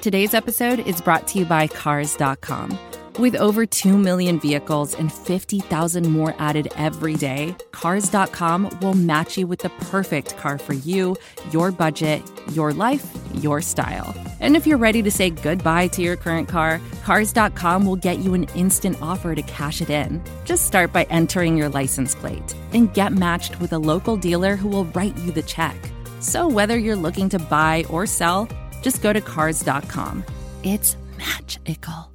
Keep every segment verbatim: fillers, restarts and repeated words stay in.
Today's episode is brought to you by Cars dot com. With over two million vehicles and fifty thousand more added every day, Cars dot com will match you with the perfect car for you, your budget, your life, your style. And if you're ready to say goodbye to your current car, Cars dot com will get you an instant offer to cash it in. Just start by entering your license plate and get matched with a local dealer who will write you the check. So whether you're looking to buy or sell, just go to Cars dot com. It's magical.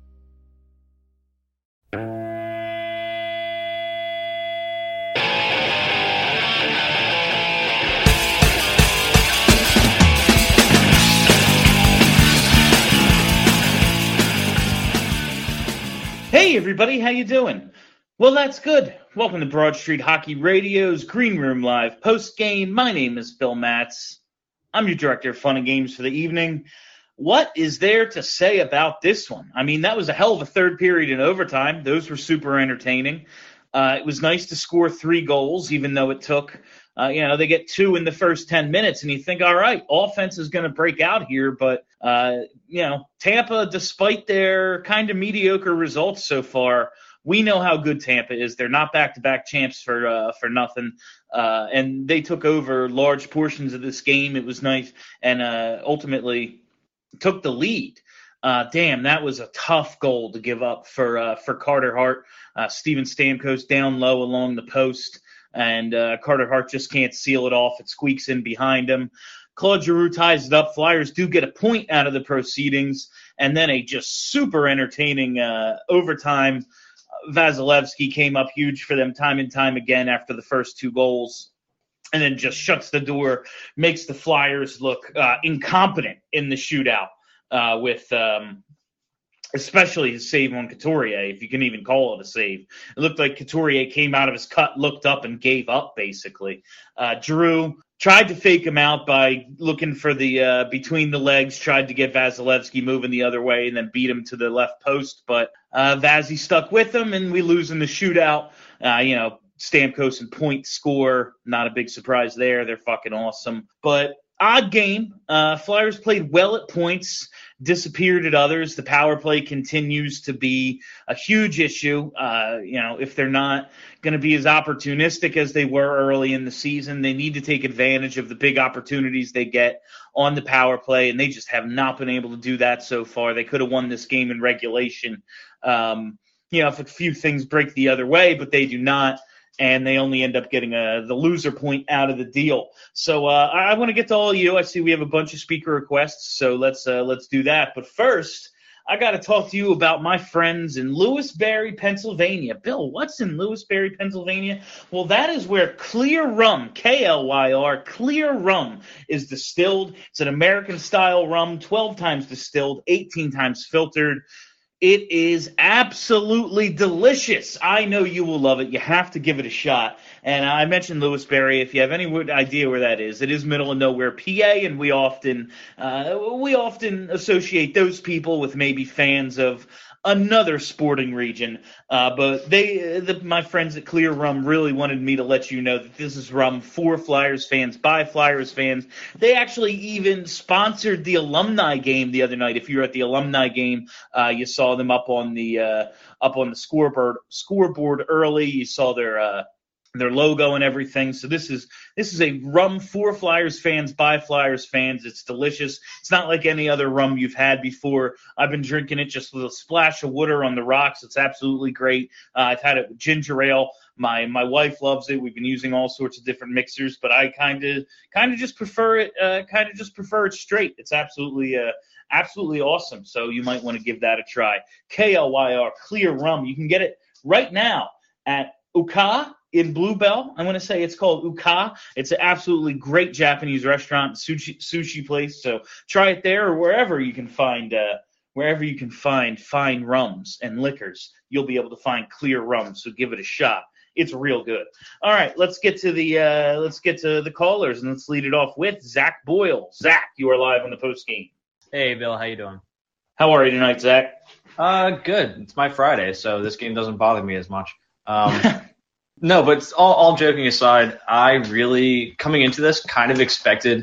Hey everybody, how you doing? Well, that's good. Welcome to Broad Street Hockey Radio's Green Room Live post-game. My name is Bill Matz. I'm your director of fun and games for the evening. What is there to say about this one? I mean, that was a hell of a third period in overtime. Those were super entertaining. Uh, it was nice to score three goals, even though it took, uh, you know, they get two in the first ten minutes, and you think, all right, offense is going to break out here. But, uh, you know, Tampa, despite their kind of mediocre results so far, we know how good Tampa is. They're not back-to-back champs for uh, for nothing. Uh, and they took over large portions of this game. It was nice. And uh, ultimately took the lead. Uh, damn, that was a tough goal to give up for uh, for Carter Hart. Uh, Steven Stamkos down low along the post. And uh, Carter Hart just can't seal it off. It squeaks in behind him. Claude Giroux ties it up. Flyers do get a point out of the proceedings. And then a just super entertaining uh, overtime. Vasilevsky came up huge for them time and time again after the first two goals, and then just shuts the door, makes the Flyers look uh, incompetent in the shootout uh, with um, especially his save on Couturier, if you can even call it a save. It looked like Couturier came out of his cut, looked up, and gave up, basically. Uh, Giroux tried to fake him out by looking for the uh, between the legs, tried to get Vasilevsky moving the other way, and then beat him to the left post. But uh, Vazzy stuck with him, and we lose in the shootout. Uh, you know, Stamkos and Point score. Not a big surprise there. They're fucking awesome. But odd game. Uh, Flyers played well at points, disappeared at others. The power play continues to be a huge issue. Uh, you know, if they're not going to be as opportunistic as they were early in the season, they need to take advantage of the big opportunities they get on the power play, and they just have not been able to do that so far. They could have won this game in regulation, um, you know, if a few things break the other way, but they do not. And they only end up getting a, the loser point out of the deal. So uh, I, I want to get to all of you. I see we have a bunch of speaker requests, so let's uh, let's do that. But first, I got to talk to you about my friends in Lewisberry, Pennsylvania. Bill, what's in Lewisberry, Pennsylvania? Well, that is where Clear Rum, K L Y R, Clear Rum is distilled. It's an American-style rum, twelve times distilled, eighteen times filtered. It is absolutely delicious. I know you will love it. You have to give it a shot. And I mentioned Lewisberry. If you have any idea where that is, it is middle of nowhere, P A, and we often uh, we often associate those people with maybe fans of another sporting region. Uh, but they, the, my friends at Clear Rum really wanted me to let you know that this is rum for Flyers fans, by Flyers fans. They actually even sponsored the alumni game the other night. If you were at the alumni game, uh, you saw them up on the uh, up on the scoreboard scoreboard early. You saw their uh, their logo and everything. So this is this is a rum for Flyers fans, by Flyers fans. It's delicious. It's not like any other rum you've had before. I've been drinking it just with a splash of water on the rocks. It's absolutely great. Uh, I've had it with ginger ale. My my wife loves it. We've been using all sorts of different mixers, but I kind of kind of just prefer it. Uh, kind of just prefer it straight. It's absolutely uh, absolutely awesome. So you might want to give that a try. K L Y R Clear Rum. You can get it right now at Uka in Bluebell. I'm going to say it's called Uka. It's an absolutely great Japanese restaurant, sushi sushi place. So try it there or wherever you can find uh, wherever you can find fine rums and liquors. You'll be able to find Clear Rum. So give it a shot. It's real good. All right, let's get to the uh, let's get to the callers, and let's lead it off with Zach Boyle. Zach, you are live on the post game. Hey, Bill, how you doing? How are you tonight, Zach? Uh, good. It's my Friday, so this game doesn't bother me as much. Um, no, but all, all joking aside, I really, coming into this, kind of expected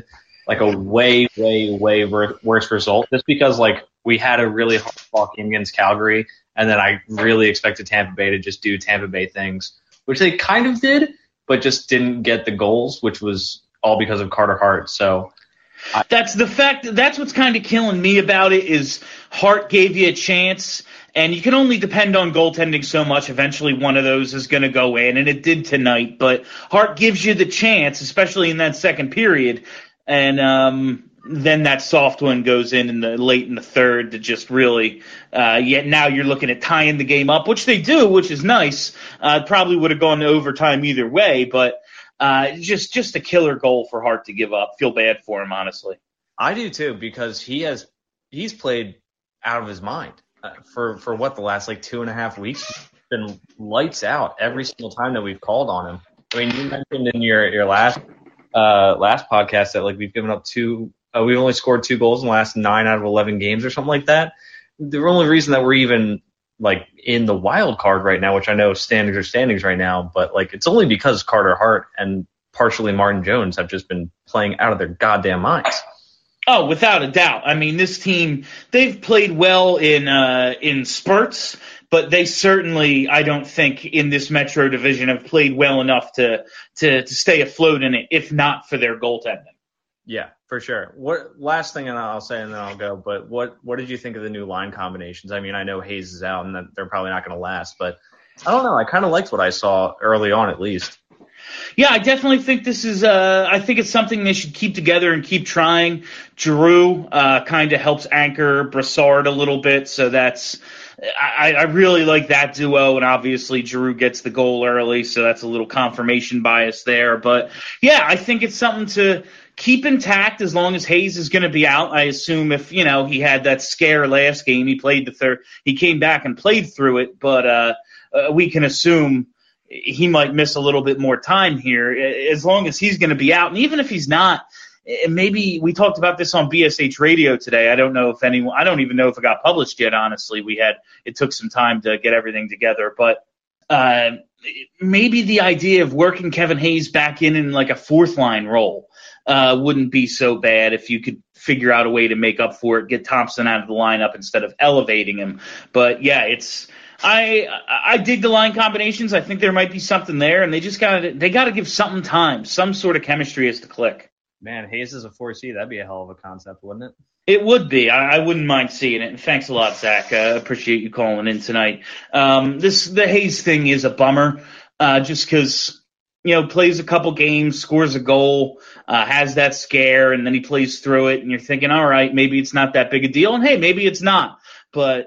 like a way, way, way wor- worse result just because like we had a really hard fought game against Calgary, and then I really expected Tampa Bay to just do Tampa Bay things, which they kind of did, but just didn't get the goals, which was all because of Carter Hart. So I, that's the fact. That's what's kind of killing me about it is Hart gave you a chance, and you can only depend on goaltending so much. Eventually, one of those is going to go in, and it did tonight. But Hart gives you the chance, especially in that second period, and um, then that soft one goes in in the late in the third to just really. Uh, yet now you're looking at tying the game up, which they do, which is nice. Uh, probably would have gone to overtime either way, but. Uh, just just a killer goal for Hart to give up. Feel bad for him, honestly. I do too, because he has he's played out of his mind uh, for for what the last like two and a half weeks. He's been lights out every single time that we've called on him. I mean, you mentioned in your your last uh, last podcast that like we've given up two, uh, we've only scored two goals in the last nine out of eleven games or something like that. The only reason that we're even like in the wild card right now, which I know standings are standings right now, but like it's only because Carter Hart and partially Martin Jones have just been playing out of their goddamn minds. Oh, without a doubt. I mean, this team, they've played well in uh, in spurts, but they certainly, I don't think, in this Metro division have played well enough to to, to stay afloat in it, if not for their goaltending. Yeah, for sure. What last thing, and I'll say, and then I'll go. But what what did you think of the new line combinations? I mean, I know Hayes is out, and that they're probably not going to last, but I don't know. I kind of liked what I saw early on, at least. Yeah, I definitely think this is. Uh, I think it's something they should keep together and keep trying. Giroux uh, kind of helps anchor Brassard a little bit, so that's. I, I really like that duo, and obviously Giroux gets the goal early, so that's a little confirmation bias there. But yeah, I think it's something to keep intact as long as Hayes is going to be out. I assume if you know he had that scare last game, he played the third. He came back and played through it, but uh, uh, we can assume. He might miss a little bit more time here as long as he's going to be out. And even if he's not, maybe we talked about this on B S H radio today. I don't know if anyone, I don't even know if it got published yet. Honestly, we had, it took some time to get everything together, but uh, maybe the idea of working Kevin Hayes back in in like a fourth line role uh, wouldn't be so bad if you could figure out a way to make up for it, get Thompson out of the lineup instead of elevating him. But yeah, it's, I I dig the line combinations. I think there might be something there, and they just got to they got to give something time. Some sort of chemistry has to click. Man, Hayes is a four C. That'd be a hell of a concept, wouldn't it? It would be. I, I wouldn't mind seeing it. And thanks a lot, Zach. I uh, appreciate you calling in tonight. Um, this the Hayes thing is a bummer, uh, just because you know plays a couple games, scores a goal, uh, has that scare, and then he plays through it, and you're thinking, all right, maybe it's not that big a deal, and hey, maybe it's not, but.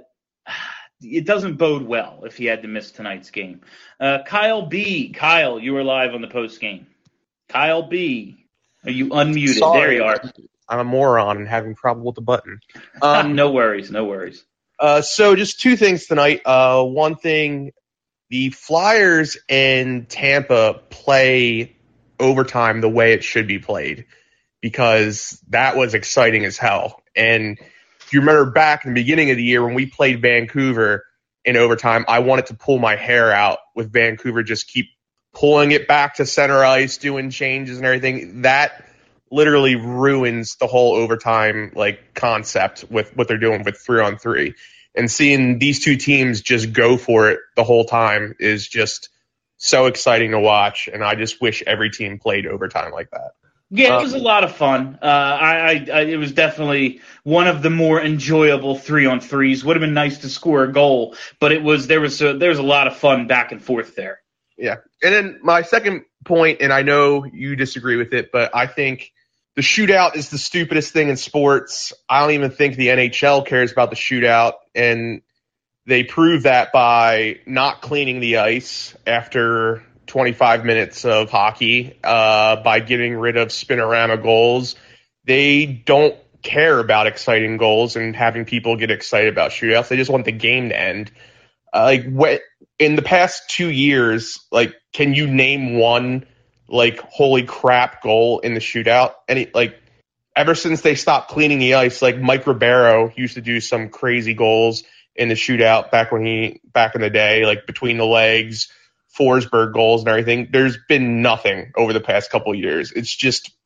It doesn't bode well if he had to miss tonight's game. Uh, Kyle B. Kyle, you are live on the post game. Kyle B. Are you unmuted? Sorry, there you are. I'm a moron and having trouble with the button. Um, no worries, no worries. Uh, so just two things tonight. Uh, one thing, the Flyers and Tampa play overtime the way it should be played because that was exciting as hell. And if you remember back in the beginning of the year when we played Vancouver in overtime, I wanted to pull my hair out with Vancouver, just keep pulling it back to center ice, doing changes and everything. That literally ruins the whole overtime like concept with what they're doing with three on three. And seeing these two teams just go for it the whole time is just so exciting to watch. And I just wish every team played overtime like that. Yeah, it was a lot of fun. Uh, I, I, I, it was definitely one of the more enjoyable three on threes. Would have been nice to score a goal, but it was there was a, there was a lot of fun back and forth there. Yeah, and then my second point, and I know you disagree with it, but I think the shootout is the stupidest thing in sports. I don't even think the N H L cares about the shootout, and they prove that by not cleaning the ice after twenty-five minutes of hockey, uh, by getting rid of spinorama goals. They don't care about exciting goals and having people get excited about shootouts. They just want the game to end. Uh, like what in the past two years, like, can you name one like holy crap goal in the shootout? Any like ever since they stopped cleaning the ice, like Mike Ribeiro used to do some crazy goals in the shootout back when he back in the day, like between the legs. Forsberg goals and everything. There's been nothing over the past couple of years. It's just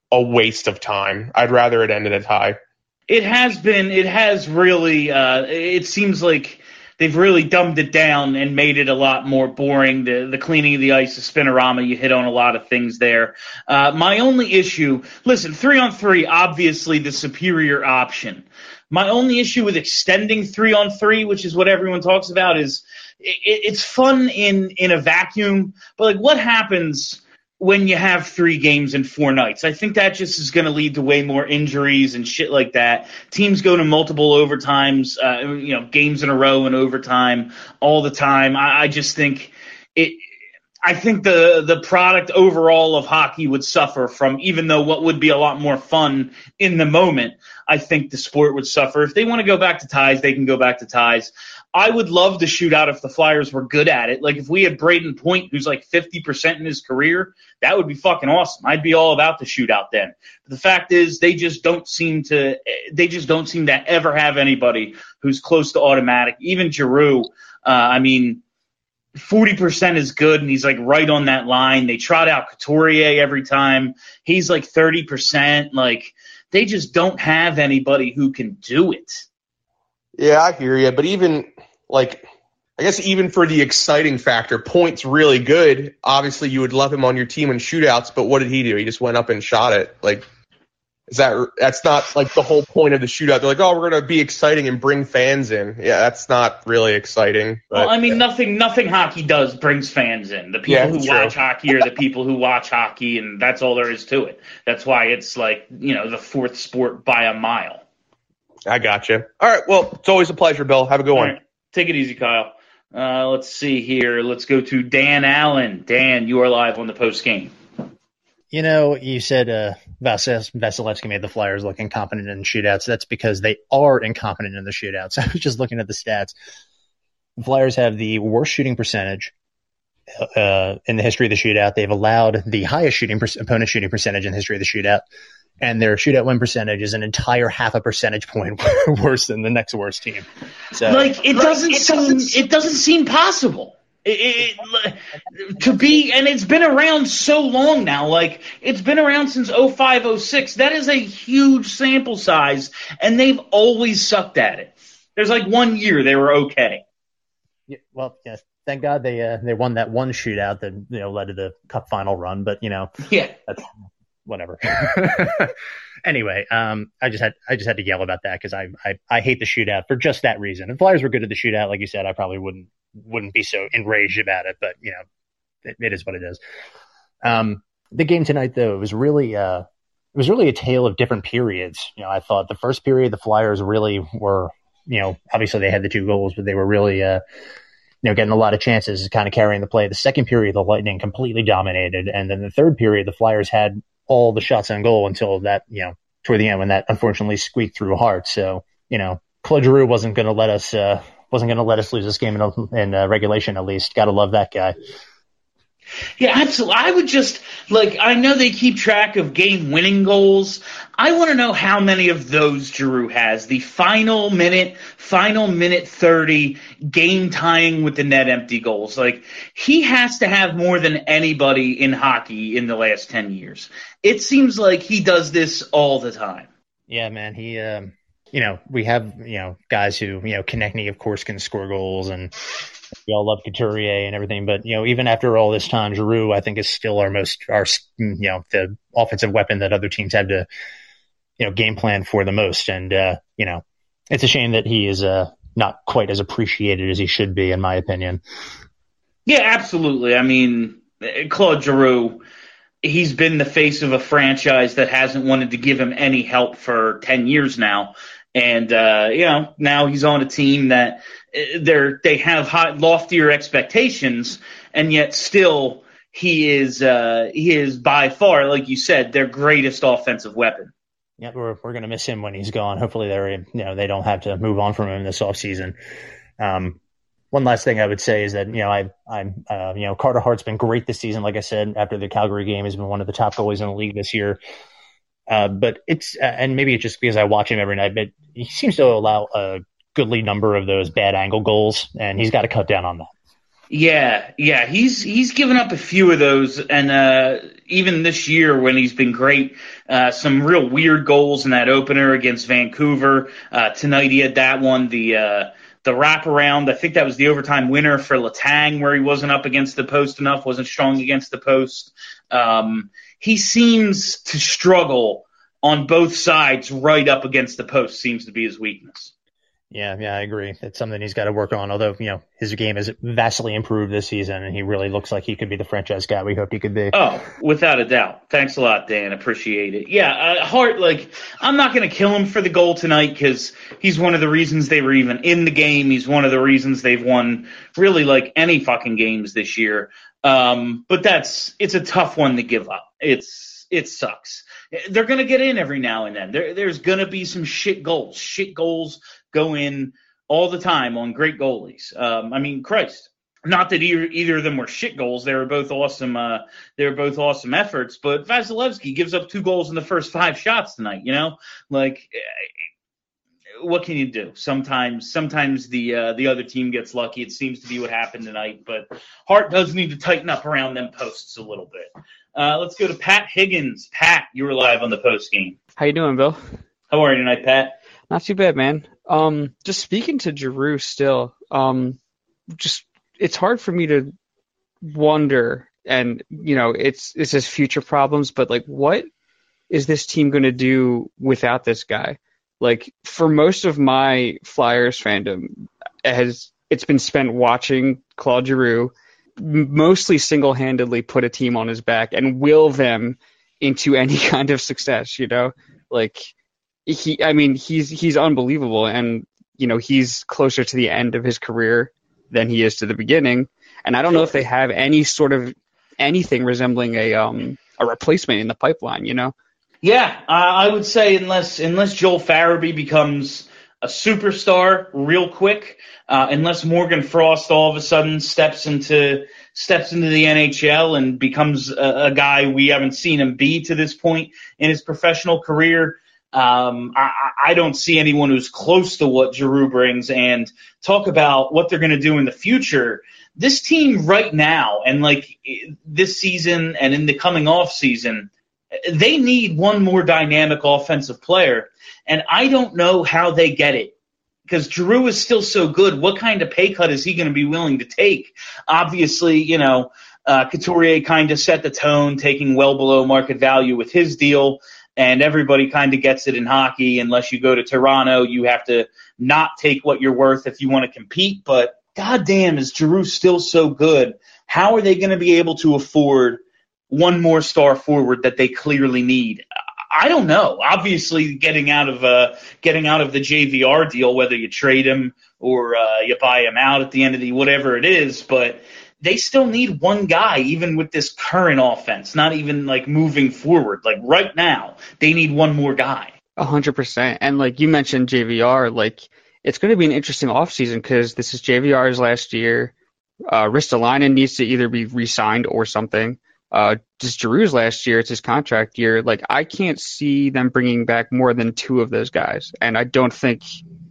a waste of time. I'd rather it end in a tie. It has been. It has really. Uh, it seems like they've really dumbed it down and made it a lot more boring. The the cleaning of the ice, the spinorama, you hit on a lot of things there. Uh, my only issue, listen, three on three, obviously the superior option. My only issue with extending three on three, which is what everyone talks about, is it, it's fun in, in a vacuum, but like what happens when you have three games in four nights? I think that just is going to lead to way more injuries and shit like that. Teams go to multiple overtimes, uh, you know, games in a row and overtime all the time. I, I just think it. I think the the product overall of hockey would suffer from, even though what would be a lot more fun in the moment, I think the sport would suffer. If they want to go back to ties, they can go back to ties. I would love the shootout if the Flyers were good at it. Like if we had Braden Point, who's like fifty percent in his career, that would be fucking awesome. I'd be all about the shootout then. But the fact is they just don't seem to they just don't seem to ever have anybody who's close to automatic. Even Giroux, uh, I mean, forty percent is good, and he's like right on that line. They trot out Couturier every time. He's like thirty percent. Like they just don't have anybody who can do it. Yeah, I hear you. But even like, I guess even for the exciting factor, Point's really good. Obviously, you would love him on your team in shootouts. But what did he do? He just went up and shot it. Like, is that that's not like the whole point of the shootout? They're like, oh, we're gonna be exciting and bring fans in. Yeah, that's not really exciting. But, well, I mean, nothing nothing hockey does brings fans in. The people Yeah, who true. watch hockey are the people who watch hockey, and that's all there is to it. That's why it's like, you know, the fourth sport by a mile. I gotcha. All right, well, it's always a pleasure, Bill. Have a good All one. right, take it easy, Kyle. Uh, let's see here. Let's go to Dan Allen. Dan, you are live on the post game. You know, you said uh, Vasil- Vasilevsky made the Flyers look incompetent in shootouts. That's because they are incompetent in the shootouts. I was just looking at the stats. The Flyers have the worst shooting percentage uh, in the history of the shootout. They've allowed the highest shooting per- opponent shooting percentage in the history of the shootout. And their shootout win percentage is an entire half a percentage point worse than the next worst team. So, Like it like, doesn't it seem doesn't- it doesn't seem possible. It, it, to be, and it's been around so long now. Like it's been around since oh five, oh six. That is a huge sample size, and they've always sucked at it. There's like one year they were okay. Yeah, well, yes, thank God they uh, they won that one shootout that you know led to the Cup final run. But you know, Yeah. that's whatever. Anyway, um, I just had I just had to yell about that because I, I I hate the shootout for just that reason. If Flyers were good at the shootout, like you said, I probably wouldn't wouldn't be so enraged about it. But you know, it, it is what it is. Um, the game tonight, though, it was really uh, it was really a tale of different periods. You know, I thought the first period the Flyers really were, you know, obviously they had the two goals, but they were really uh, you know, getting a lot of chances, kind of carrying the play. The second period, the Lightning completely dominated, and then the third period, the Flyers had all the shots on goal until that, you know, toward the end when that unfortunately squeaked through hard. So, you know, Claude Giroux wasn't going to let us, uh, wasn't going to let us lose this game in, in uh, regulation. At least, got to love that guy. Yeah, absolutely. I would just, like, I know they keep track of game-winning goals. I want to know how many of those Giroux has. The final minute, final minute thirty, game-tying with the net empty goals. Like, he has to have more than anybody in hockey in the last ten years. It seems like he does this all the time. Yeah, man. He, um, you know, we have, you know, guys who, you know, Konechny, of course, can score goals, and we all love Couturier and everything. But, you know, even after all this time, Giroux, I think, is still our most, our, you know, the offensive weapon that other teams have to, you know, game plan for the most. And, uh, you know, it's a shame that he is uh, not quite as appreciated as he should be, in my opinion. Yeah, absolutely. I mean, Claude Giroux, he's been the face of a franchise that hasn't wanted to give him any help for ten years now. And, uh, you know, now he's on a team that they're, they have high, loftier expectations, and yet still he is, uh, he is by far, like you said, their greatest offensive weapon. Yeah, we're we're gonna miss him when he's gone. Hopefully, they're you know they don't have to move on from him this offseason. Um, one last thing I would say is that you know I I'm uh, you know Carter Hart's been great this season. Like I said, after the Calgary game, he's been one of the top goalies in the league this year. Uh, but it's uh, and maybe it's just because I watch him every night, but he seems to allow a goodly number of those bad angle goals, and he's got to cut down on that. Yeah, yeah, he's he's given up a few of those, and uh, even this year when he's been great, uh, some real weird goals in that opener against Vancouver. Uh, tonight he had that one, the uh, the wraparound. I think that was the overtime winner for Letang, where he wasn't up against the post enough, wasn't strong against the post. Um, he seems to struggle on both sides, right up against the post seems to be his weakness. Yeah, yeah, I agree. It's something he's got to work on. Although, you know, his game has vastly improved this season, and he really looks like he could be the franchise guy we hoped he could be. Oh, without a doubt. Thanks a lot, Dan. Appreciate it. Yeah, uh, Hart, like, I'm not going to kill him for the goal tonight because he's one of the reasons they were even in the game. He's one of the reasons they've won really, like, any fucking games this year. Um, but that's it's a tough one to give up. It's it sucks. They're going to get in every now and then. There, there's going to be some shit goals. Shit goals go in all the time on great goalies. Um, I mean, Christ, not that either, either of them were shit goals. They were both awesome. Uh, they were both awesome efforts. But Vasilevsky gives up two goals in the first five shots tonight. You know, like, what can you do? Sometimes, sometimes the uh, the other team gets lucky. It seems to be what happened tonight. But Hart does need to tighten up around them posts a little bit. Uh, let's go to Pat Higgins. Pat, you were live on the post game. How you doing, Bill? How are you tonight, Pat? Not too bad, man. Um, just speaking to Giroux still, um, just it's hard for me to wonder, and you know, it's it's his future problems, but like, what is this team going to do without this guy? Like, for most of my Flyers fandom, it has it's been spent watching Claude Giroux mostly single-handedly put a team on his back and will them into any kind of success, you know? Like, he, I mean, he's he's unbelievable, and, you know, he's closer to the end of his career than he is to the beginning, and I don't know if they have any sort of anything resembling a um a replacement in the pipeline, you know? Yeah, uh, I would say unless unless Joel Farabee becomes a superstar real quick, uh, unless Morgan Frost all of a sudden steps into steps into the N H L and becomes a, a guy we haven't seen him be to this point in his professional career, um, I, I don't see anyone who's close to what Giroux brings. And talk about what they're going to do in the future. This team right now, and like this season and in the coming off season, they need one more dynamic offensive player, and I don't know how they get it because Giroux is still so good. What kind of pay cut is he going to be willing to take? Obviously, you know, uh, Couturier kind of set the tone, taking well below market value with his deal, and everybody kind of gets it in hockey. Unless you go to Toronto, you have to not take what you're worth if you want to compete. But goddamn, is Giroux still so good? How are they going to be able to afford one more star forward that they clearly need? I don't know. Obviously, getting out of uh, getting out of the J V R deal, whether you trade him or uh, you buy him out at the end of the whatever it is, but they still need one guy, even with this current offense. Not even like moving forward. Like right now, they need one more guy. A hundred percent. And like you mentioned, J V R, like it's going to be an interesting offseason because this is J V R's last year. Uh, Ristolainen needs to either be re-signed or something. Uh, just Giroux's last year, it's his contract year. Like, I can't see them bringing back more than two of those guys. And I don't think,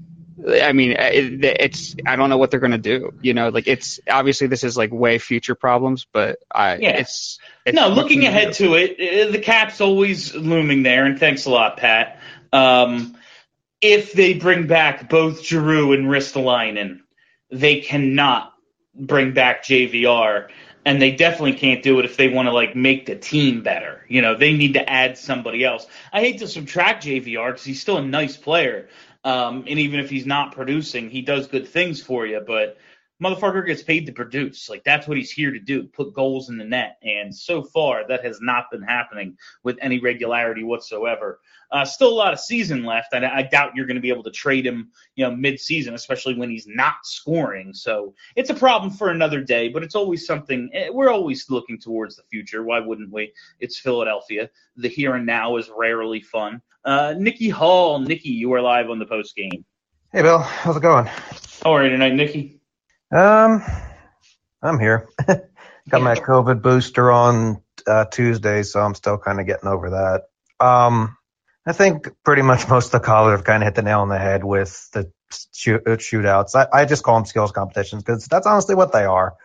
I mean, it, it's, I don't know what they're going to do. You know, like, it's, obviously this is like way future problems, but I, yeah. it's, it's, no, looking ahead to it, the cap's always looming there. And thanks a lot, Pat. Um, if they bring back both Giroux and Ristolainen, they cannot bring back J V R. And they definitely can't do it if they want to, like, make the team better. You know, they need to add somebody else. I hate to subtract J V R because he's still a nice player. Um, and even if he's not producing, he does good things for you. But motherfucker gets paid to produce. Like, that's what he's here to do, put goals in the net. And so far, that has not been happening with any regularity whatsoever. Uh, still a lot of season left. I, I doubt you're going to be able to trade him, you know, mid-season, especially when he's not scoring. So it's a problem for another day, but it's always something. We're always looking towards the future. Why wouldn't we? It's Philadelphia. The here and now is rarely fun. Uh, Nikki Hall. Nikki, you are live on the post game. Hey, Bill. How's it going? How are you tonight, Nikki? Um, I'm here. Got my COVID booster on uh, Tuesday, so I'm still kind of getting over that. Um, I think pretty much most of the callers have kind of hit the nail on the head with the shoot, shootouts. I, I just call them skills competitions because that's honestly what they are.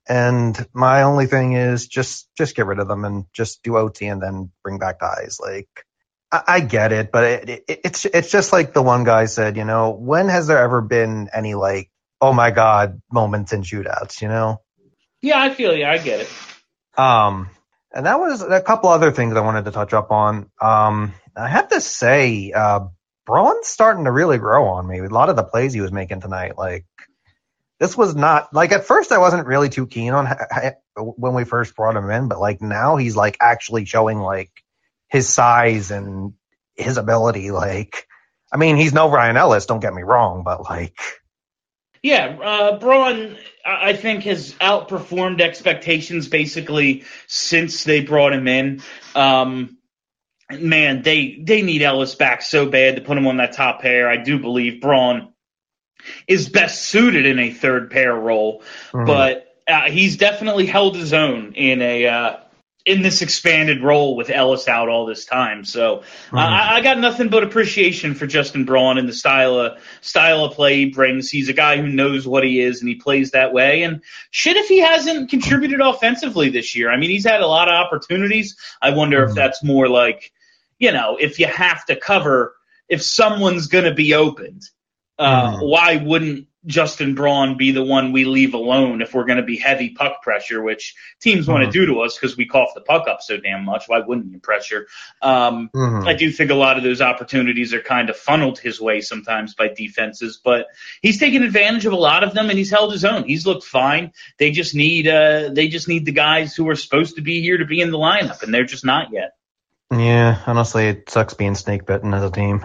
And my only thing is just just get rid of them and just do O T and then bring back guys. Like, I, I get it, but it, it, it's it's just like the one guy said, you know, when has there ever been any, like, oh my God moments in shootouts, you know? Yeah, I feel you. I get it. Um, and that was a couple other things I wanted to touch up on. Um, I have to say, uh, Braun's starting to really grow on me with a lot of the plays he was making tonight. Like, this was not, like, at first I wasn't really too keen on when we first brought him in, but, like, now he's, like, actually showing, like, his size and his ability. Like, I mean, he's no Ryan Ellis, don't get me wrong, but, like. Yeah, uh, Braun, I think, has outperformed expectations basically since they brought him in. Um, man, they, they need Ellis back so bad to put him on that top pair. I do believe Braun is best suited in a third pair role, mm-hmm. but uh, he's definitely held his own in a uh, in this expanded role with Ellis out all this time. So mm-hmm. uh, I, I got nothing but appreciation for Justin Braun and the style of style of play he brings. He's a guy who knows what he is, and he plays that way. And shit, if he hasn't contributed offensively this year, I mean, he's had a lot of opportunities. I wonder mm-hmm. if that's more like, you know, if you have to cover, if someone's going to be opened. Uh, mm-hmm. Why wouldn't Justin Braun be the one we leave alone if we're going to be heavy puck pressure, which teams mm-hmm. want to do to us because we cough the puck up so damn much? Why wouldn't you pressure? Um, mm-hmm. I do think a lot of those opportunities are kind of funneled his way sometimes by defenses, but he's taken advantage of a lot of them and he's held his own. He's looked fine. They just need uh, they just need the guys who are supposed to be here to be in the lineup, and they're just not yet. Yeah, honestly, it sucks being snake bitten as a team.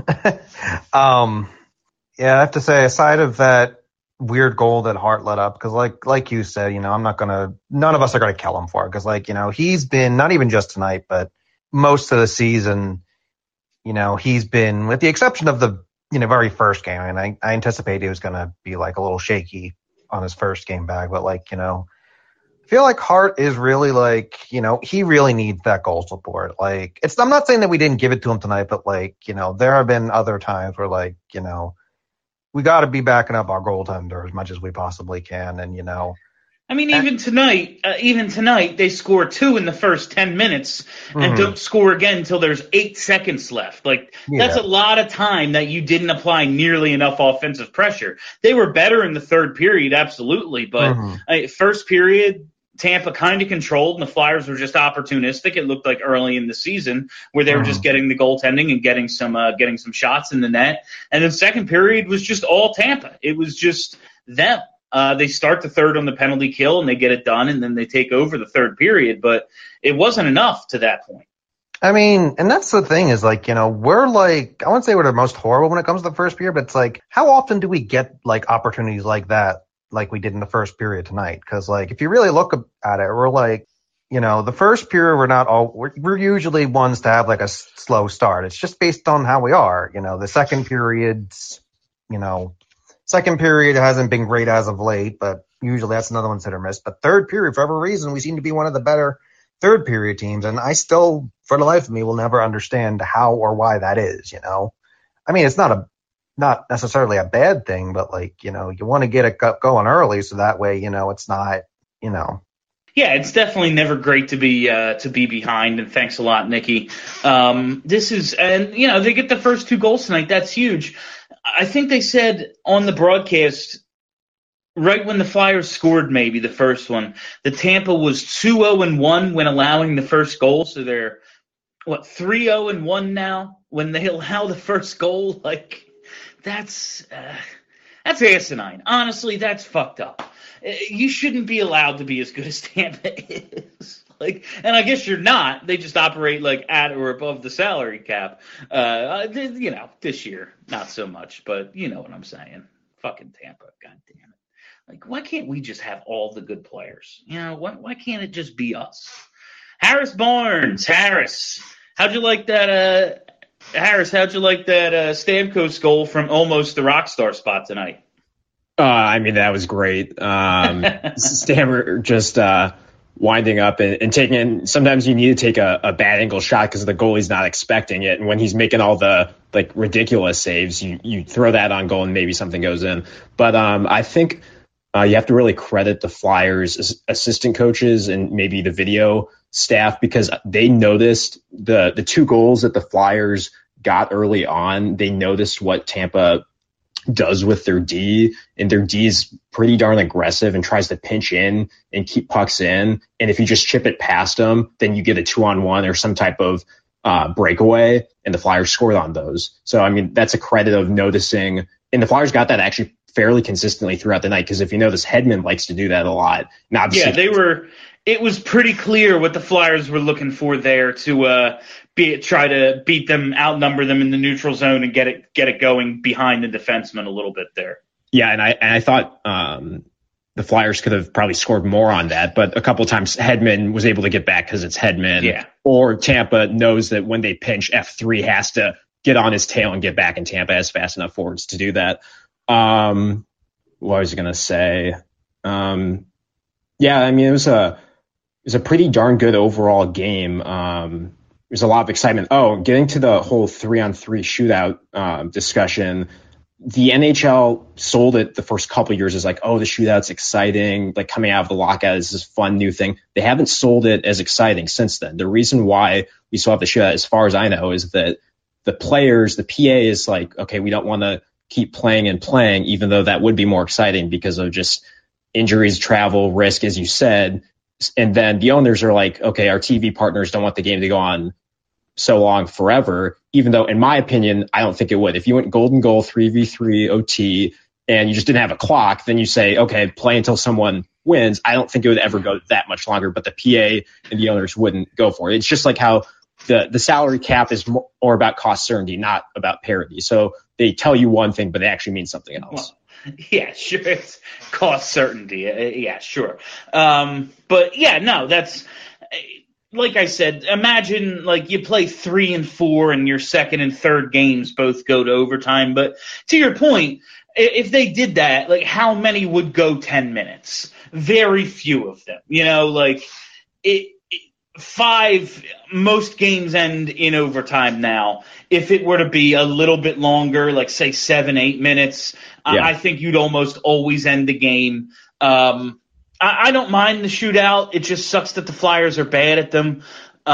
um. Yeah, I have to say, aside of that weird goal that Hart let up, because like like you said, you know, I'm not going to – none of us are going to kill him for it because, like, you know, he's been – not even just tonight, but most of the season, you know, he's been – with the exception of the, you know, very first game. And I, I anticipated he was going to be, like, a little shaky on his first game back. But, like, you know, I feel like Hart is really, like, you know, he really needs that goal support. Like, it's – I'm not saying that we didn't give it to him tonight, but, like, you know, there have been other times where, like, you know – we got to be backing up our goaltender as much as we possibly can, and you know. I mean, even tonight, uh, even tonight, they score two in the first ten minutes and mm-hmm. don't score again until there's eight seconds left. Like yeah. that's a lot of time that you didn't apply nearly enough offensive pressure. They were better in the third period, absolutely, but mm-hmm. uh, first period. Tampa kind of controlled, and the Flyers were just opportunistic. It looked like early in the season where they were just getting the goaltending and getting some uh, getting some shots in the net. And then second period was just all Tampa. It was just them. Uh, they start the third on the penalty kill, and they get it done, and then they take over the third period. But it wasn't enough to that point. I mean, and that's the thing is, like, you know, we're like, I wouldn't say we're the most horrible when it comes to the first period, but it's like, how often do we get, like, opportunities like that? Like we did in the first period tonight. Because, like, if you really look at it, we're like, you know, the first period, we're not all, we're, we're usually ones to have, like, a slow start. It's just based on how we are. You know, the second period's, you know, second period hasn't been great as of late, but usually that's another one's hit or miss. But third period, for whatever reason, we seem to be one of the better third period teams. And I still, for the life of me, will never understand how or why that is, you know. I mean, it's not a, not necessarily a bad thing, but, like, you know, you want to get it going early so that way, you know, it's not, you know. Yeah, it's definitely never great to be uh, to be behind, and thanks a lot, Nikki. Um, this is, and, you know, they get the first two goals tonight. That's huge. I think they said on the broadcast, right when the Flyers scored maybe the first one, the Tampa was two oh and one when allowing the first goal, so they're, what, three oh and one now when they allow the first goal? Like, That's uh, that's asinine. Honestly, that's fucked up. You shouldn't be allowed to be as good as Tampa is. Like, and I guess you're not. They just operate like at or above the salary cap. Uh, you know, this year not so much, but you know what I'm saying. Fucking Tampa, god damn it. Like, why can't we just have all the good players? You know, why why can't it just be us? Harris Barnes, Harris, how'd you like that? Uh, Harris, how'd you like that uh, Stamkos goal from almost the rock star spot tonight? Uh, I mean, that was great. Um, Stammer just uh, winding up and, and taking – sometimes you need to take a, a bad angle shot because the goalie's not expecting it. And when he's making all the, like, ridiculous saves, you, you throw that on goal and maybe something goes in. But um, I think Uh, you have to really credit the Flyers assistant coaches and maybe the video staff, because they noticed the the two goals that the Flyers got early on. They noticed what Tampa does with their D, and their D is pretty darn aggressive and tries to pinch in and keep pucks in. And if you just chip it past them, then you get a two on one or some type of uh, breakaway, and the Flyers scored on those. So, I mean, that's a credit of noticing. And the Flyers got that actually fairly consistently throughout the night, because if you notice, Hedman likes to do that a lot. Now, yeah, they were. It was pretty clear what the Flyers were looking for there to uh, be try to beat them, outnumber them in the neutral zone, and get it get it going behind the defenseman a little bit there. Yeah, and I and I thought um, the Flyers could have probably scored more on that, but a couple of times Hedman was able to get back because it's Hedman. Yeah. Or Tampa knows that when they pinch, F three has to get on his tail and get back, and Tampa has fast enough forwards to do that. Um, what was I going to say? Um, yeah, I mean, it was a it was a pretty darn good overall game. Um, there's a lot of excitement. Oh, getting to the whole three on three shootout um, discussion. The N H L sold it the first couple of years as like, oh, the shootout's exciting. Like coming out of the lockout is this fun new thing. They haven't sold it as exciting since then. The reason why we still have the shootout, as far as I know, is that the players, the P A is like, okay, we don't want to keep playing and playing, even though that would be more exciting because of just injuries, travel, risk, as you said. And then the owners are like, okay, our T V partners don't want the game to go on so long forever, even though, in my opinion, I don't think it would. If you went golden goal, three v three O T, and you just didn't have a clock, then you say, okay, play until someone wins. I don't think it would ever go that much longer, but the P A and the owners wouldn't go for it. It's just like how the, the salary cap is more about cost certainty, not about parity. So they tell you one thing, but they actually mean something else. Well, yeah, sure. It's cost certainty. Uh, yeah, sure. Um, but yeah, no, that's like I said. Imagine like you play three and four, and your second and third games both go to overtime. But to your point, if they did that, like how many would go ten minutes? Very few of them. You know, like it. Five, most games end in overtime now. If it were to be a little bit longer, like say seven, eight minutes, yeah. I think you'd almost always end the game. Um, I, I don't mind the shootout. It just sucks that the Flyers are bad at them.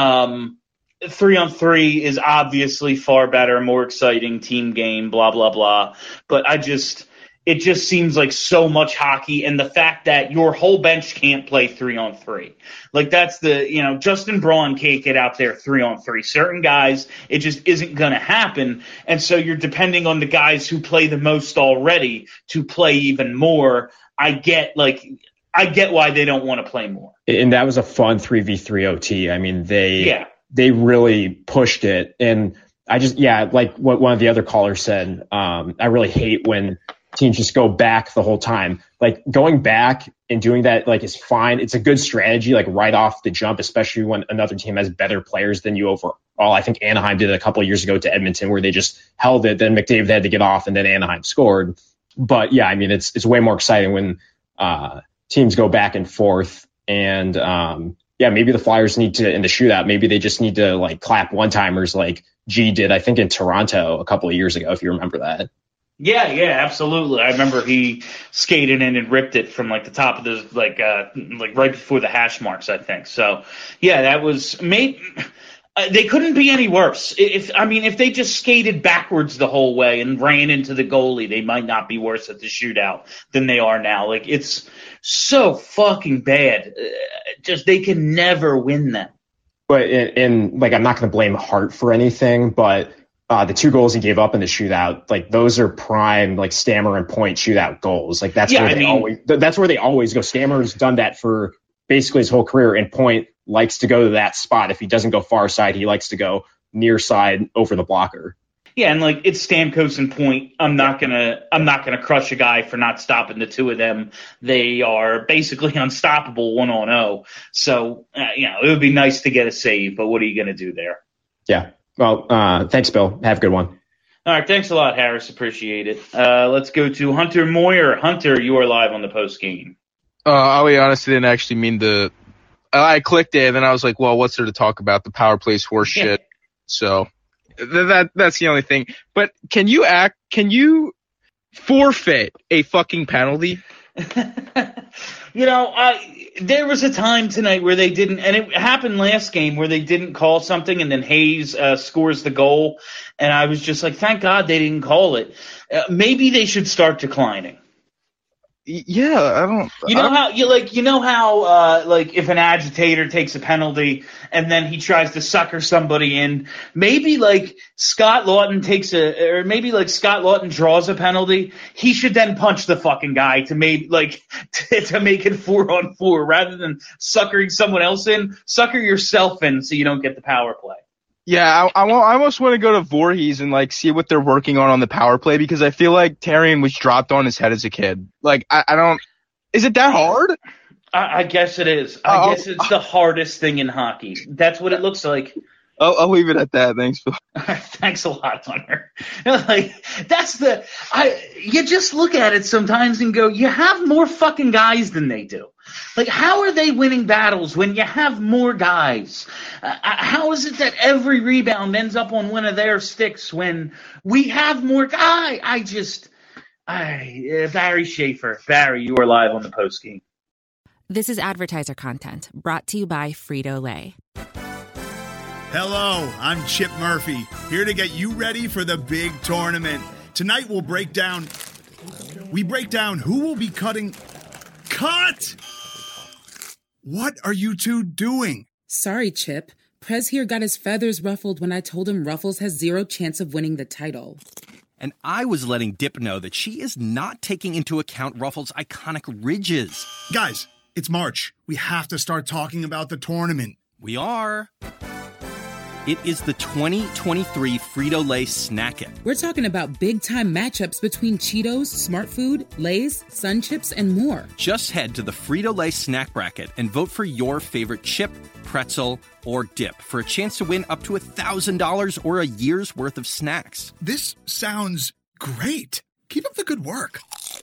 Um, three on three is obviously far better, more exciting team game, blah, blah, blah. But I just... It just seems like so much hockey, and the fact that your whole bench can't play three on three. Like that's the, you know, Justin Braun can't get out there three on three. Certain guys, it just isn't going to happen. And so you're depending on the guys who play the most already to play even more. I get like, I get why they don't want to play more. And that was a fun three v three O T. I mean, they, yeah. they really pushed it. And I just, yeah, like what one of the other callers said, um, I really hate when teams just go back the whole time. Like going back and doing that, like is fine. It's a good strategy, like right off the jump, especially when another team has better players than you overall. I think Anaheim did it a couple of years ago to Edmonton, where they just held it. Then McDavid had to get off, and then Anaheim scored. But yeah, I mean, it's it's way more exciting when uh, teams go back and forth. And um, yeah, maybe the Flyers need to in the shootout. Maybe they just need to like clap one timers like G did, I think, in Toronto a couple of years ago, if you remember that. Yeah, yeah, absolutely. I remember he skated in and ripped it from like the top of the like uh like right before the hash marks, I think. So yeah, that was made. Uh, they couldn't be any worse. If I mean, if they just skated backwards the whole way and ran into the goalie, they might not be worse at the shootout than they are now. Like it's so fucking bad. Uh, just they can never win them. But and, and like I'm not going to blame Hart for anything, but. Uh, the two goals he gave up in the shootout, like those are prime, like Stammer and Point shootout goals. Like that's yeah, where I they mean, always, that's where they always go. Stammer's done that for basically his whole career, and Point likes to go to that spot. If he doesn't go far side, he likes to go near side over the blocker. Yeah, and like it's Stamkos and Point. I'm not gonna, I'm not gonna crush a guy for not stopping the two of them. They are basically unstoppable one on zero. So uh, you know, it would be nice to get a save, but what are you gonna do there? Yeah. Well, uh, thanks, Bill. Have a good one. All right. Thanks a lot, Harris. Appreciate it. Uh, let's go to Hunter Moyer. Hunter, you are live on the post game. Uh, I'll be honest, I didn't actually mean to. I clicked it, and then I was like, well, what's there to talk about? The power plays horse shit. So th- that that's the only thing. But can you act? Can you forfeit a fucking penalty? You know, I, there was a time tonight where they didn't, and it happened last game where they didn't call something, and then Hayes uh, scores the goal, and I was just like, thank God they didn't call it. Uh, maybe they should start declining. Yeah, I don't. You know I don't, how you like. You know how uh, like if an agitator takes a penalty and then he tries to sucker somebody in. Maybe like Scott Lawton takes a, or maybe like Scott Lawton draws a penalty. He should then punch the fucking guy to make like to, to make it four on four rather than suckering someone else in. Sucker yourself in so you don't get the power play. Yeah, I, I, I almost want to go to Voorhees and like see what they're working on on the power play because I feel like Tarian was dropped on his head as a kid. Like I, I don't. Is it that hard? I, I guess it is. I Uh, guess it's the hardest thing in hockey. That's what it looks like. I'll, I'll leave it at that. Thanks, Phil. Thanks a lot, Hunter. Like that's the I. You just look at it sometimes and go, you have more fucking guys than they do. Like, how are they winning battles when you have more guys? Uh, how is it that every rebound ends up on one of their sticks when we have more guys? I just, I uh, Barry Schaefer. Barry, you are live on the post game. This is advertiser content brought to you by Frito-Lay. Hello, I'm Chip Murphy, here to get you ready for the big tournament. Tonight we'll break down, we break down who will be cutting, cut! What are you two doing? Sorry, Chip. Prez here got his feathers ruffled when I told him Ruffles has zero chance of winning the title. And I was letting Dip know that she is not taking into account Ruffles' iconic ridges. Guys, it's March. We have to start talking about the tournament. We are. It is the twenty twenty-three Frito-Lay Snack It. We're talking about big-time matchups between Cheetos, Smart Food, Lay's, Sun Chips, and more. Just head to the Frito-Lay Snack Bracket and vote for your favorite chip, pretzel, or dip for a chance to win up to one thousand dollars or a year's worth of snacks. This sounds great. Keep up the good work.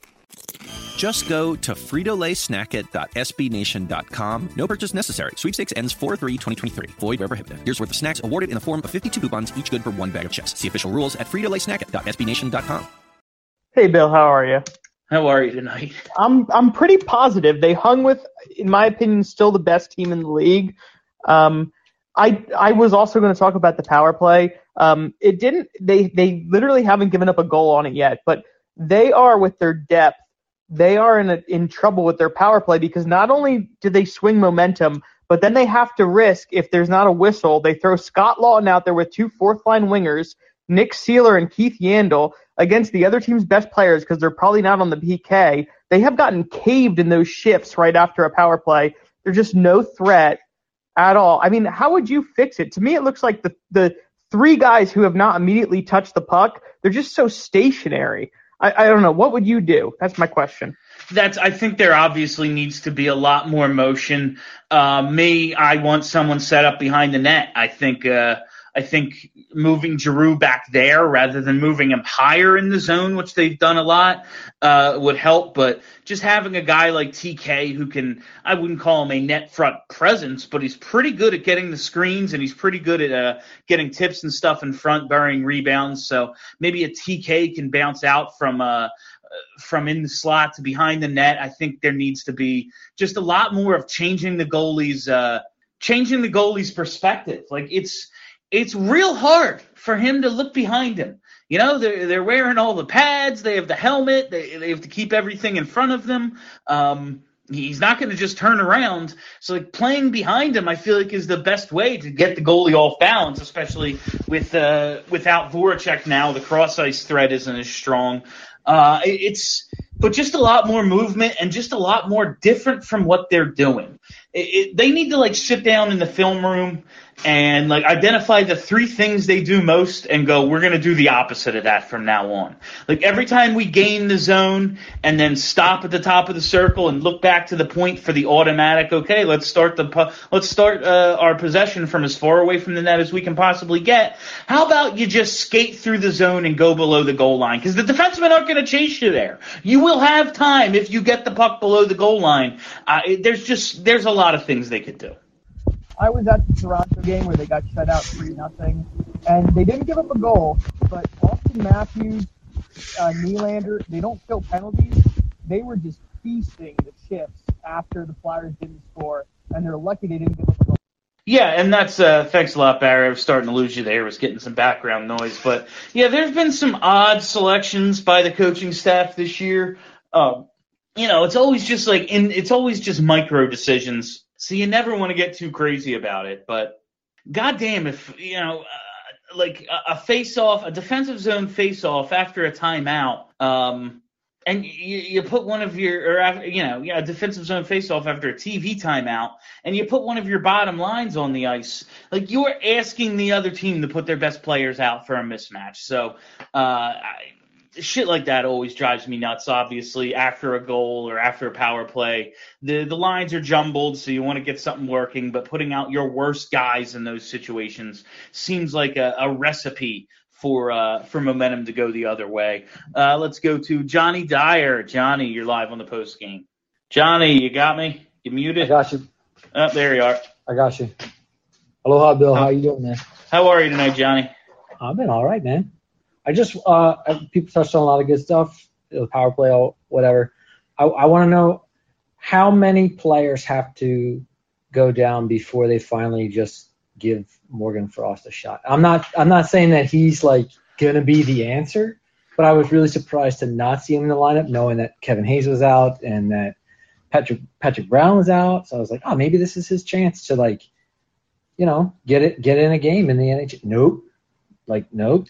Just go to Frito Lay Snack It dot S B Nation dot com. No purchase necessary. Sweepstakes ends four three twenty twenty-three. Void where prohibited. Here's worth of snacks awarded in the form of fifty-two coupons, each good for one bag of chips. See official rules at Frito Lay Snack It dot S B Nation dot com. Hey, Bill, how are you? How are you tonight? I'm I'm pretty positive. They hung with, in my opinion, still the best team in the league. Um, I I was also going to talk about the power play. Um, it didn't. They they literally haven't given up a goal on it yet, but they are with their depth. They are in a, in trouble with their power play because not only do they swing momentum, but then they have to risk, if there's not a whistle, they throw Scott Lawton out there with two fourth-line wingers, Nick Seeler and Keith Yandel, against the other team's best players because they're probably not on the P K. They have gotten caved in those shifts right after a power play. There's just no threat at all. I mean, how would you fix it? To me, it looks like the, the three guys who have not immediately touched the puck, they're just so stationary. I, I don't know. What would you do? That's my question. That's. I think there obviously needs to be a lot more motion. Uh, me, I want someone set up behind the net. I think. Uh, I think moving Giroux back there rather than moving him higher in the zone, which they've done a lot, uh, would help. But just having a guy like T K who can, I wouldn't call him a net front presence, but he's pretty good at getting the screens and he's pretty good at uh, getting tips and stuff in front, burying rebounds. So maybe a T K can bounce out from uh, from in the slot to behind the net. I think there needs to be just a lot more of changing the goalie's uh, changing the goalie's perspective. Like it's. It's real hard for him to look behind him. You know, they're, they're wearing all the pads. They have the helmet. They, they have to keep everything in front of them. Um, he's not going to just turn around. So, like, playing behind him, I feel like, is the best way to get the goalie off balance, especially with uh, without Voracek now. The cross-ice threat isn't as strong. Uh, it, it's but just a lot more movement and just a lot more different from what they're doing. It, it, they need to, like, sit down in the film room and like identify the three things they do most and go, we're going to do the opposite of that from now on. Like every time we gain the zone and then stop at the top of the circle and look back to the point for the automatic, okay, let's start the let's start uh, our possession from as far away from the net as we can possibly get. How about you just skate through the zone and go below the goal line? Because the defensemen aren't going to chase you there. You will have time if you get the puck below the goal line. Uh, there's just there's a lot of things they could do. I was at the Toronto game where they got shut out three nothing, and they didn't give up a goal, but Austin Matthews, uh, Nylander, they don't kill penalties, they were just feasting the chips after the Flyers didn't score, and they're lucky they didn't give up a goal. Yeah, and that's uh, thanks a lot, Barry. I was starting to lose you there. I was getting some background noise, but yeah, there's been some odd selections by the coaching staff this year. Um, you know, it's always just like in, it's always just micro decisions, so you never want to get too crazy about it. But goddamn, if you know, uh, like a, a face-off, a defensive zone face-off after a timeout. Um, And you, you put one of your, or after, you know, yeah, a defensive zone faceoff after a T V timeout, and you put one of your bottom lines on the ice. Like, you're asking the other team to put their best players out for a mismatch. So, uh, I, shit like that always drives me nuts. Obviously, after a goal or after a power play, the the lines are jumbled, so you want to get something working. But putting out your worst guys in those situations seems like a, a recipe for uh, for momentum to go the other way. Uh, let's go to Johnny Dyer. Johnny, you're live on the post game. Johnny, you got me? You muted? I got you. Oh, there you are. I got you. Aloha, Bill. How you doing, man? How are you tonight, Johnny? I've been all right, man. I just uh, I, people touched on a lot of good stuff, the power play, or whatever. I, I want to know how many players have to go down before they finally just give Morgan Frost a shot. I'm not I'm not saying that he's like gonna be the answer, but I was really surprised to not see him in the lineup, knowing that Kevin Hayes was out and that Patrick Patrick Brown was out. So I was like, oh, maybe this is his chance to, like, you know, get it get in a game in the N H L. Nope. Like, nope.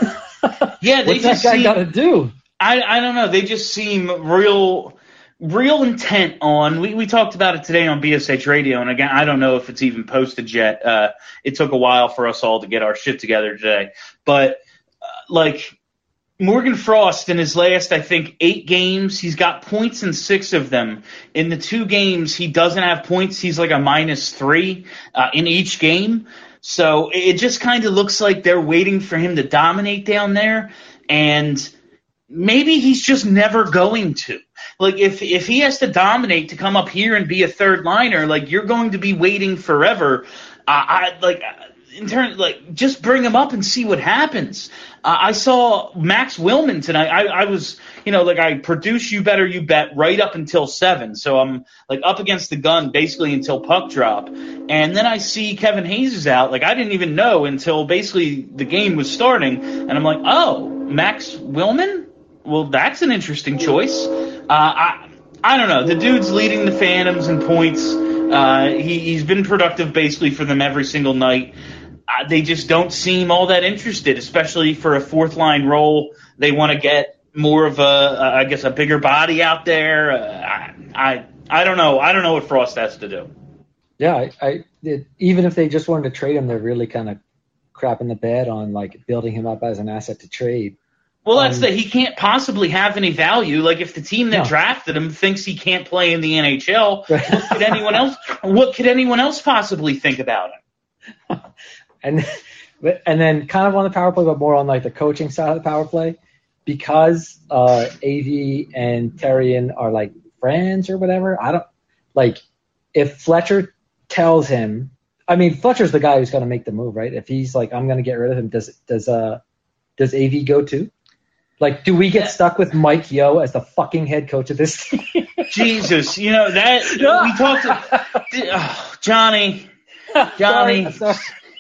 Yeah, they What's just that guy seem, got to do? I I don't know. They just seem real. Real intent on, we, we talked about it today on B S H Radio, and again, I don't know if it's even posted yet. Uh, it took a while for us all to get our shit together today. But, uh, like, Morgan Frost in his last, I think, eight games, he's got points in six of them. In the two games he doesn't have points, he's like a minus three uh, in each game. So it just kind of looks like they're waiting for him to dominate down there, and maybe he's just never going to. Like, if if he has to dominate to come up here and be a third liner, like, you're going to be waiting forever. Uh, I like in turn, like, just bring him up and see what happens. Uh, I saw Max Willman tonight. I, I was, you know, like, I produce You Better You Bet right up until seven, so I'm like up against the gun basically until puck drop, and then I see Kevin Hayes is out. Like, I didn't even know until basically the game was starting, and I'm like, oh, Max Willman? Well, that's an interesting choice. Uh, I I don't know. The dude's leading the Phantoms in points. Uh, he, he's been productive basically for them every single night. Uh, they just don't seem all that interested, especially for a fourth line role. They want to get more of a, a, I guess, a bigger body out there. Uh, I, I I don't know. I don't know what Frost has to do. Yeah, I, I it, even if they just wanted to trade him, they're really kind of crapping the bed on, like, building him up as an asset to trade. Well, that's um, that he can't possibly have any value. Like, if the team that No. drafted him thinks he can't play in the N H L, what could anyone else? What could anyone else possibly think about him? And but- and then kind of on the power play, but more on, like, the coaching side of the power play, because uh, A V and Terrian are, like, friends or whatever. I don't like if Fletcher tells him. I mean, Fletcher's the guy who's going to make the move, right? If he's like, I'm going to get rid of him, does does uh does A V go too? Like, do we get stuck with Mike Yeo as the fucking head coach of this team? Jesus, you know that we talked to oh, Johnny, Johnny. Sorry,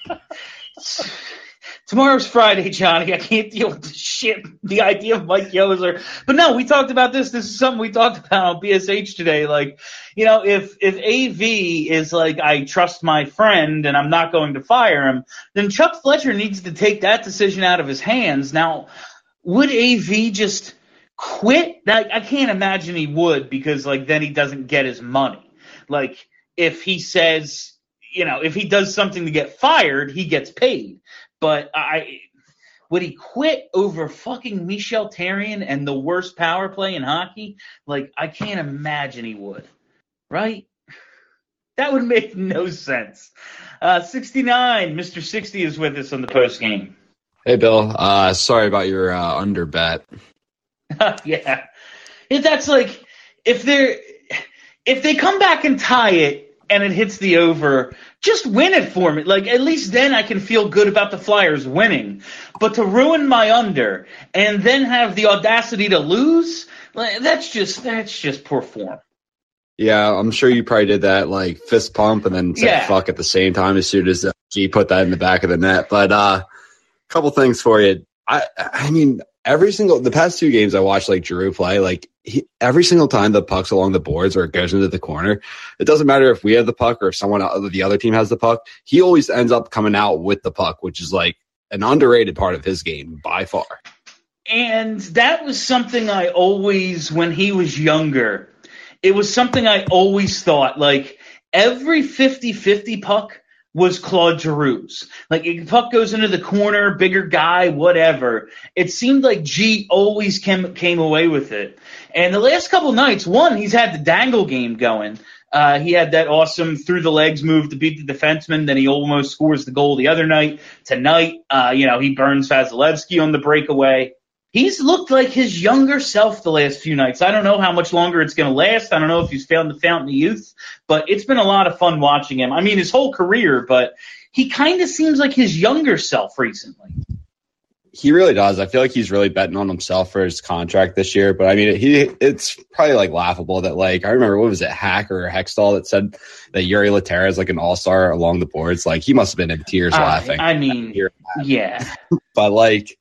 sorry. Tomorrow's Friday, Johnny. I can't deal with the shit. The idea of Mike Yeo is there. But no, we talked about this. This is something we talked about on B S H today. Like, you know, if if A V is like, I trust my friend and I'm not going to fire him, then Chuck Fletcher needs to take that decision out of his hands. Now, would A V just quit? That, I can't imagine he would, because, like, then he doesn't get his money. Like, if he says, you know, if he does something to get fired, he gets paid. But I would he quit over fucking Michel Therrien and the worst power play in hockey? Like, I can't imagine he would. Right? That would make no sense. Uh, sixty-nine, Mister sixty is with us on the post game. Hey, Bill. Uh, sorry about your uh, under bet. Yeah. If that's like, if they're, if they come back and tie it and it hits the over, just win it for me. Like, at least then I can feel good about the Flyers winning. But to ruin my under and then have the audacity to lose, Like, that's just that's just poor form. Yeah, I'm sure you probably did that like fist pump and then said Yeah. fuck at the same time as soon as uh, G put that in the back of the net. But a uh, couple things for you. I I mean, every single the past two games I watched like Giroux play, like he, every single time the puck's along the boards or it goes into the corner, it doesn't matter if we have the puck or if someone other the other team has the puck. He always ends up coming out with the puck, which is like an underrated part of his game by far. And that was something I always, when he was younger, it was something I always thought, like, every fifty-fifty puck was Claude Giroux's. Like, if puck goes into the corner, bigger guy, whatever. It seemed like G always came, came away with it. And the last couple nights, one, he's had the dangle game going. Uh, he had that awesome through-the-legs move to beat the defenseman. Then he almost scores the goal the other night. Tonight, uh, you know, he burns Vasilevsky on the breakaway. He's looked like his younger self the last few nights. I don't know how much longer it's going to last. I don't know if he's found the fountain of youth, but it's been a lot of fun watching him. I mean, his whole career, but he kind of seems like his younger self recently. He really does. I feel like he's really betting on himself for his contract this year. But I mean, he it's probably like laughable that like I remember what was it, Hack or Hextall that said that Yuri Laterra is like an all star along the boards. Like he must have been in tears Uh, laughing. I mean, yeah. But like,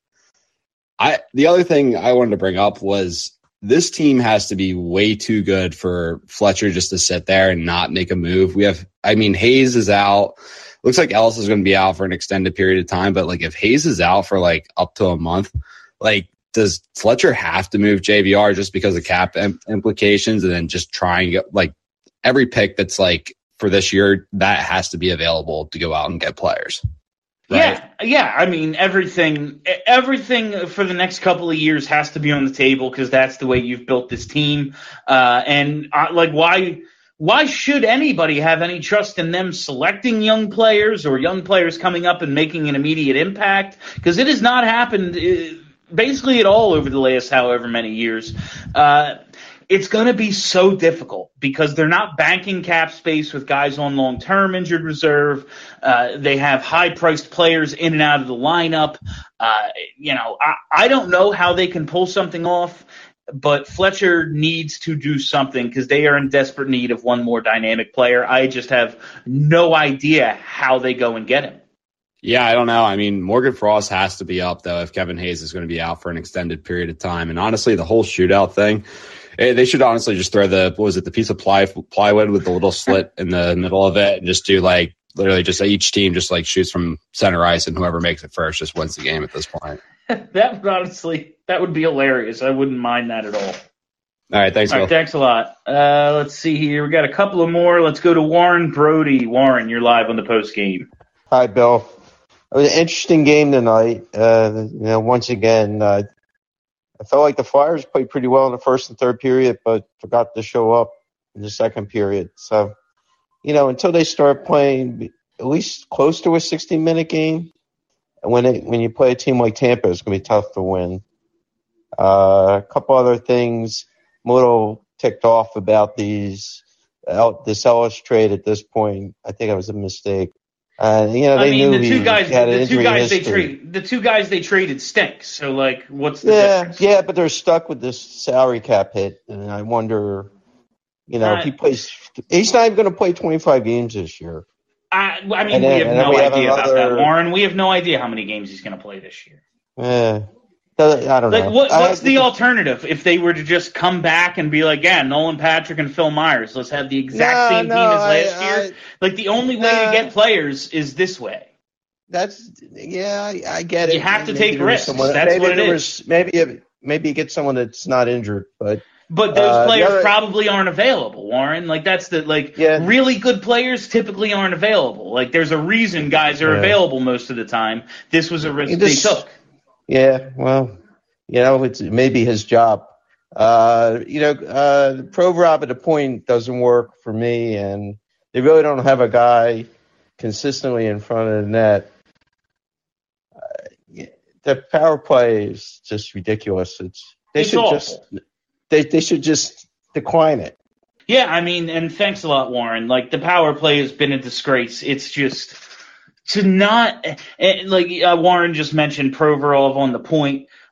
I the other thing I wanted to bring up was this team has to be way too good for Fletcher just to sit there and not make a move. We have, I mean, Hayes is out. Looks like Ellis is going to be out for an extended period of time. But like, if Hayes is out for like up to a month, like, does Fletcher have to move J V R just because of cap im- implications, and then just try and get like every pick that's like for this year that has to be available to go out and get players. Yeah, yeah. I mean, everything, everything for the next couple of years has to be on the table because that's the way you've built this team. Uh, and uh, like, why, why should anybody have any trust in them selecting young players or young players coming up and making an immediate impact? Because it has not happened uh, basically at all over the last however many years. Uh, It's going to be so difficult because they're not banking cap space with guys on long-term injured reserve. Uh, they have high-priced players in and out of the lineup. Uh, you know, I, I don't know how they can pull something off, but Fletcher needs to do something because they are in desperate need of one more dynamic player. I just have no idea how they go and get him. Yeah, I don't know. I mean, Morgan Frost has to be up, though, if Kevin Hayes is going to be out for an extended period of time. And honestly, the whole shootout thing, they should honestly just throw the, what was it, the piece of ply, plywood with the little slit in the middle of it and just do like, literally just each team just like shoots from center ice and whoever makes it first just wins the game at this point. That would honestly, that would be hilarious. I wouldn't mind that at all. All right, thanks, All Bill. right, thanks a lot. Uh, let's see here. We got a couple of more. Let's go to Warren Brody. Warren, you're live on the post game. Hi, Bill. It was an interesting game tonight. Uh, you know, once again, uh, I felt like the Flyers played pretty well in the first and third period, but forgot to show up in the second period. So, you know, until they start playing at least close to a sixty-minute game, when it, when you play a team like Tampa, it's going to be tough to win. Uh, a couple other things I'm a little ticked off about these this Ellis trade at this point. I think it was a mistake. Uh, you know, they I mean, knew the two he guys, had an the two injury guys they history. traded, the two guys they traded stink. So, like, what's the Yeah, difference? yeah, but they're stuck with this salary cap hit, and I wonder, you know, if he plays, he's not even going to play twenty-five games this year. I, I mean, And then- we have and then no we have idea about another- that, Warren. We have no idea how many games he's going to play this year. Yeah, I don't Like, know. what, I- what's the alternative if they were to just come back and be like, yeah, Nolan Patrick and Phil Myers, let's have the exact No, same no, team as I- last I- year? Like, the only way to No. get players is this way. That's yeah, I, I get it. You have to Maybe take there was risks. someone- That's maybe what it there is. was- Maybe if- maybe you get someone that's not injured, but But those uh, the players other- probably aren't available, Warren. Like, that's the, like, really good players typically aren't available. Like, there's a reason guys are Yeah. available most of the time. This was a risk You they just- took. Yeah, well, you know, it's maybe his job. Uh, you know, uh, the Provorov at a point doesn't work for me, and they really don't have a guy consistently in front of the net. Uh, the power play is just ridiculous. It's they It's should awful. just they they should just decline it. Yeah, I mean, and thanks a lot, Warren. Like, the power play has been a disgrace. It's just to not eh, like uh, Warren just mentioned Provorov on the point.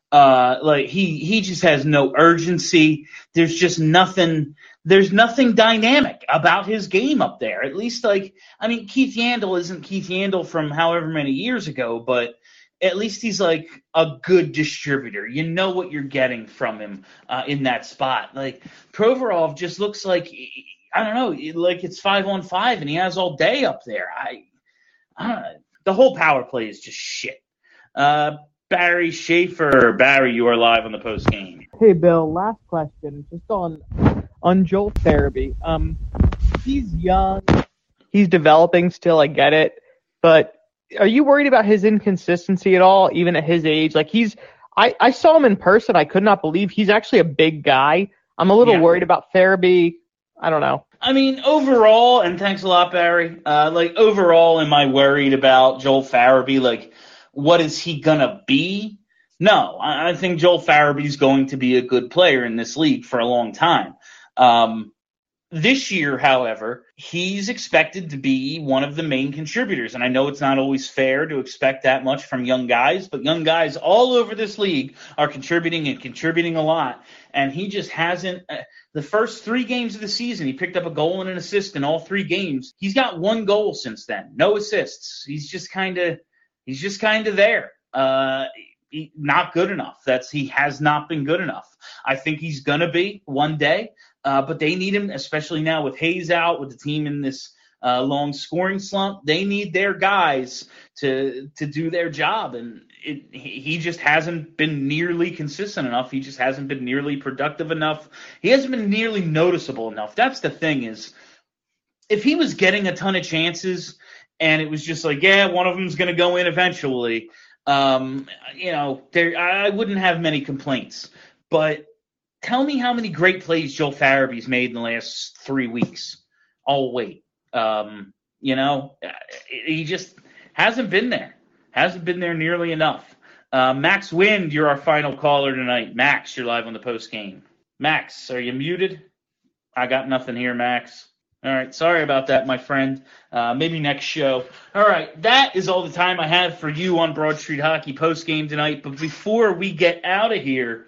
Uh, like he he just has no urgency. There's just nothing. There's nothing dynamic about his game up there. At least, like, I mean, Keith Yandle isn't Keith Yandle from however many years ago, but at least he's like a good distributor. You know what you're getting from him uh, in that spot. Like Provorov just looks like, I don't know, like it's five on five and he has all day up there. I, I don't know. The whole power play is just shit. Uh, Barry Schaefer. Barry, you are live on the post game. Hey, Bill, last question. Just on on Joel Farabee. Um, he's young. He's developing still. I get it. But are you worried about his inconsistency at all, even at his age? Like he's, I, I saw him in person. I could not believe he's actually a big guy. I'm a little Yeah. worried about Farabee. I don't know. I mean, overall, and thanks a lot, Barry. Uh, like overall, am I worried about Joel Farabee? Like, what is he gonna be? No, I, I think Joel Farabee's going to be a good player in this league for a long time. Um, This year, however, he's expected to be one of the main contributors. And I know it's not always fair to expect that much from young guys, but young guys all over this league are contributing and contributing a lot. And he just hasn't uh, – the first three games of the season, he picked up a goal and an assist in all three games. He's got one goal since then, no assists. He's just kind of – he's just kind of there. Uh, he, not good enough. That's he has not been good enough. I think he's going to be one day. Uh, but they need him, especially now with Hayes out, with the team in this uh, long scoring slump. They need their guys to to do their job, and it, he he just hasn't been nearly consistent enough. He just hasn't been nearly productive enough. He hasn't been nearly noticeable enough. That's the thing is, if he was getting a ton of chances and it was just like, yeah, one of them's going to go in eventually, um, you know, there I wouldn't have many complaints. But tell me how many great plays Joel Farabee's made in the last three weeks. I'll wait. Um, you know, he just hasn't been there. Hasn't been there nearly enough. Uh, Max Wind, you're our final caller tonight. Max, you're live on the post game. Max, are you muted? I got nothing here, Max. All right, sorry about that, my friend. Uh, maybe next show. All right, that is all the time I have for you on Broad Street Hockey post game tonight. But before we get out of here,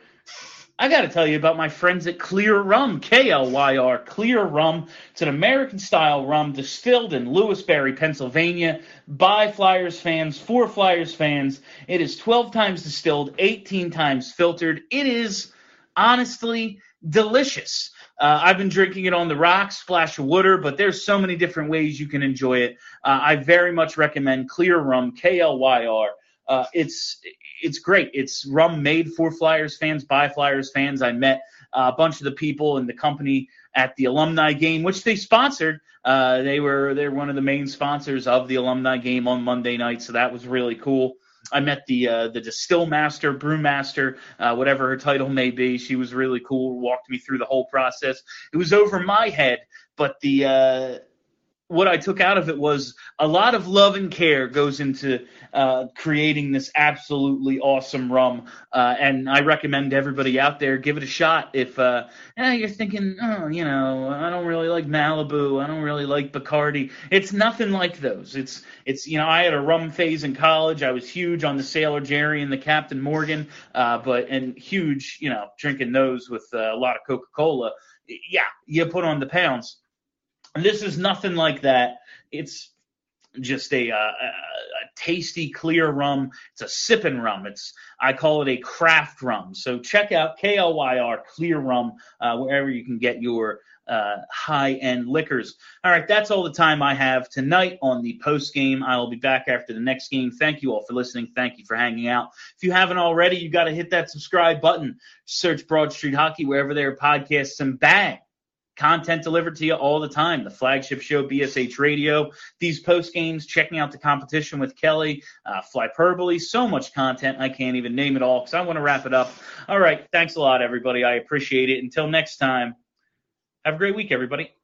I got to tell you about my friends at Clear Rum, K L Y R, Clear Rum. It's an American-style rum distilled in Lewisberry, Pennsylvania, by Flyers fans, for Flyers fans. It is twelve times distilled, eighteen times filtered. It is, honestly, delicious. Uh, I've been drinking it on the rocks, splash of water, but there's so many different ways you can enjoy it. Uh, I very much recommend Clear Rum, K L Y R. Uh, it's it's great. It's rum made for Flyers fans, by Flyers fans. I met uh, a bunch of the people in the company at the alumni game, which they sponsored. Uh, they were they're one of the main sponsors of the alumni game on Monday night, so that was really cool. I met the uh, the distill master, brew master, uh, whatever her title may be. She was really cool. Walked me through the whole process. It was over my head, but the uh, what I took out of it was a lot of love and care goes into uh, creating this absolutely awesome rum. Uh, and I recommend everybody out there give it a shot. If uh, eh, you're thinking, oh, you know, I don't really like Malibu, I don't really like Bacardi. It's nothing like those. It's, it's you know, I had a rum phase in college. I was huge on the Sailor Jerry and the Captain Morgan, uh, but and huge, you know, drinking those with uh, a lot of Coca-Cola. Yeah, you put on the pounds. And this is nothing like that. It's just a, uh, a, a tasty, clear rum. It's a sipping rum. It's I call it a craft rum. So check out K L Y R Clear Rum uh, wherever you can get your uh, high-end liquors. All right, that's all the time I have tonight on the post game. I will be back after the next game. Thank you all for listening. Thank you for hanging out. If you haven't already, you got to hit that subscribe button. Search Broad Street Hockey wherever there are podcasts, and bang. Content delivered to you all the time. The flagship show, B S H Radio, these post games, checking out the competition with Kelly, uh, Flyperbole, so much content. I can't even name it all because I want to wrap it up. All right. Thanks a lot, everybody. I appreciate it. Until next time, have a great week, everybody.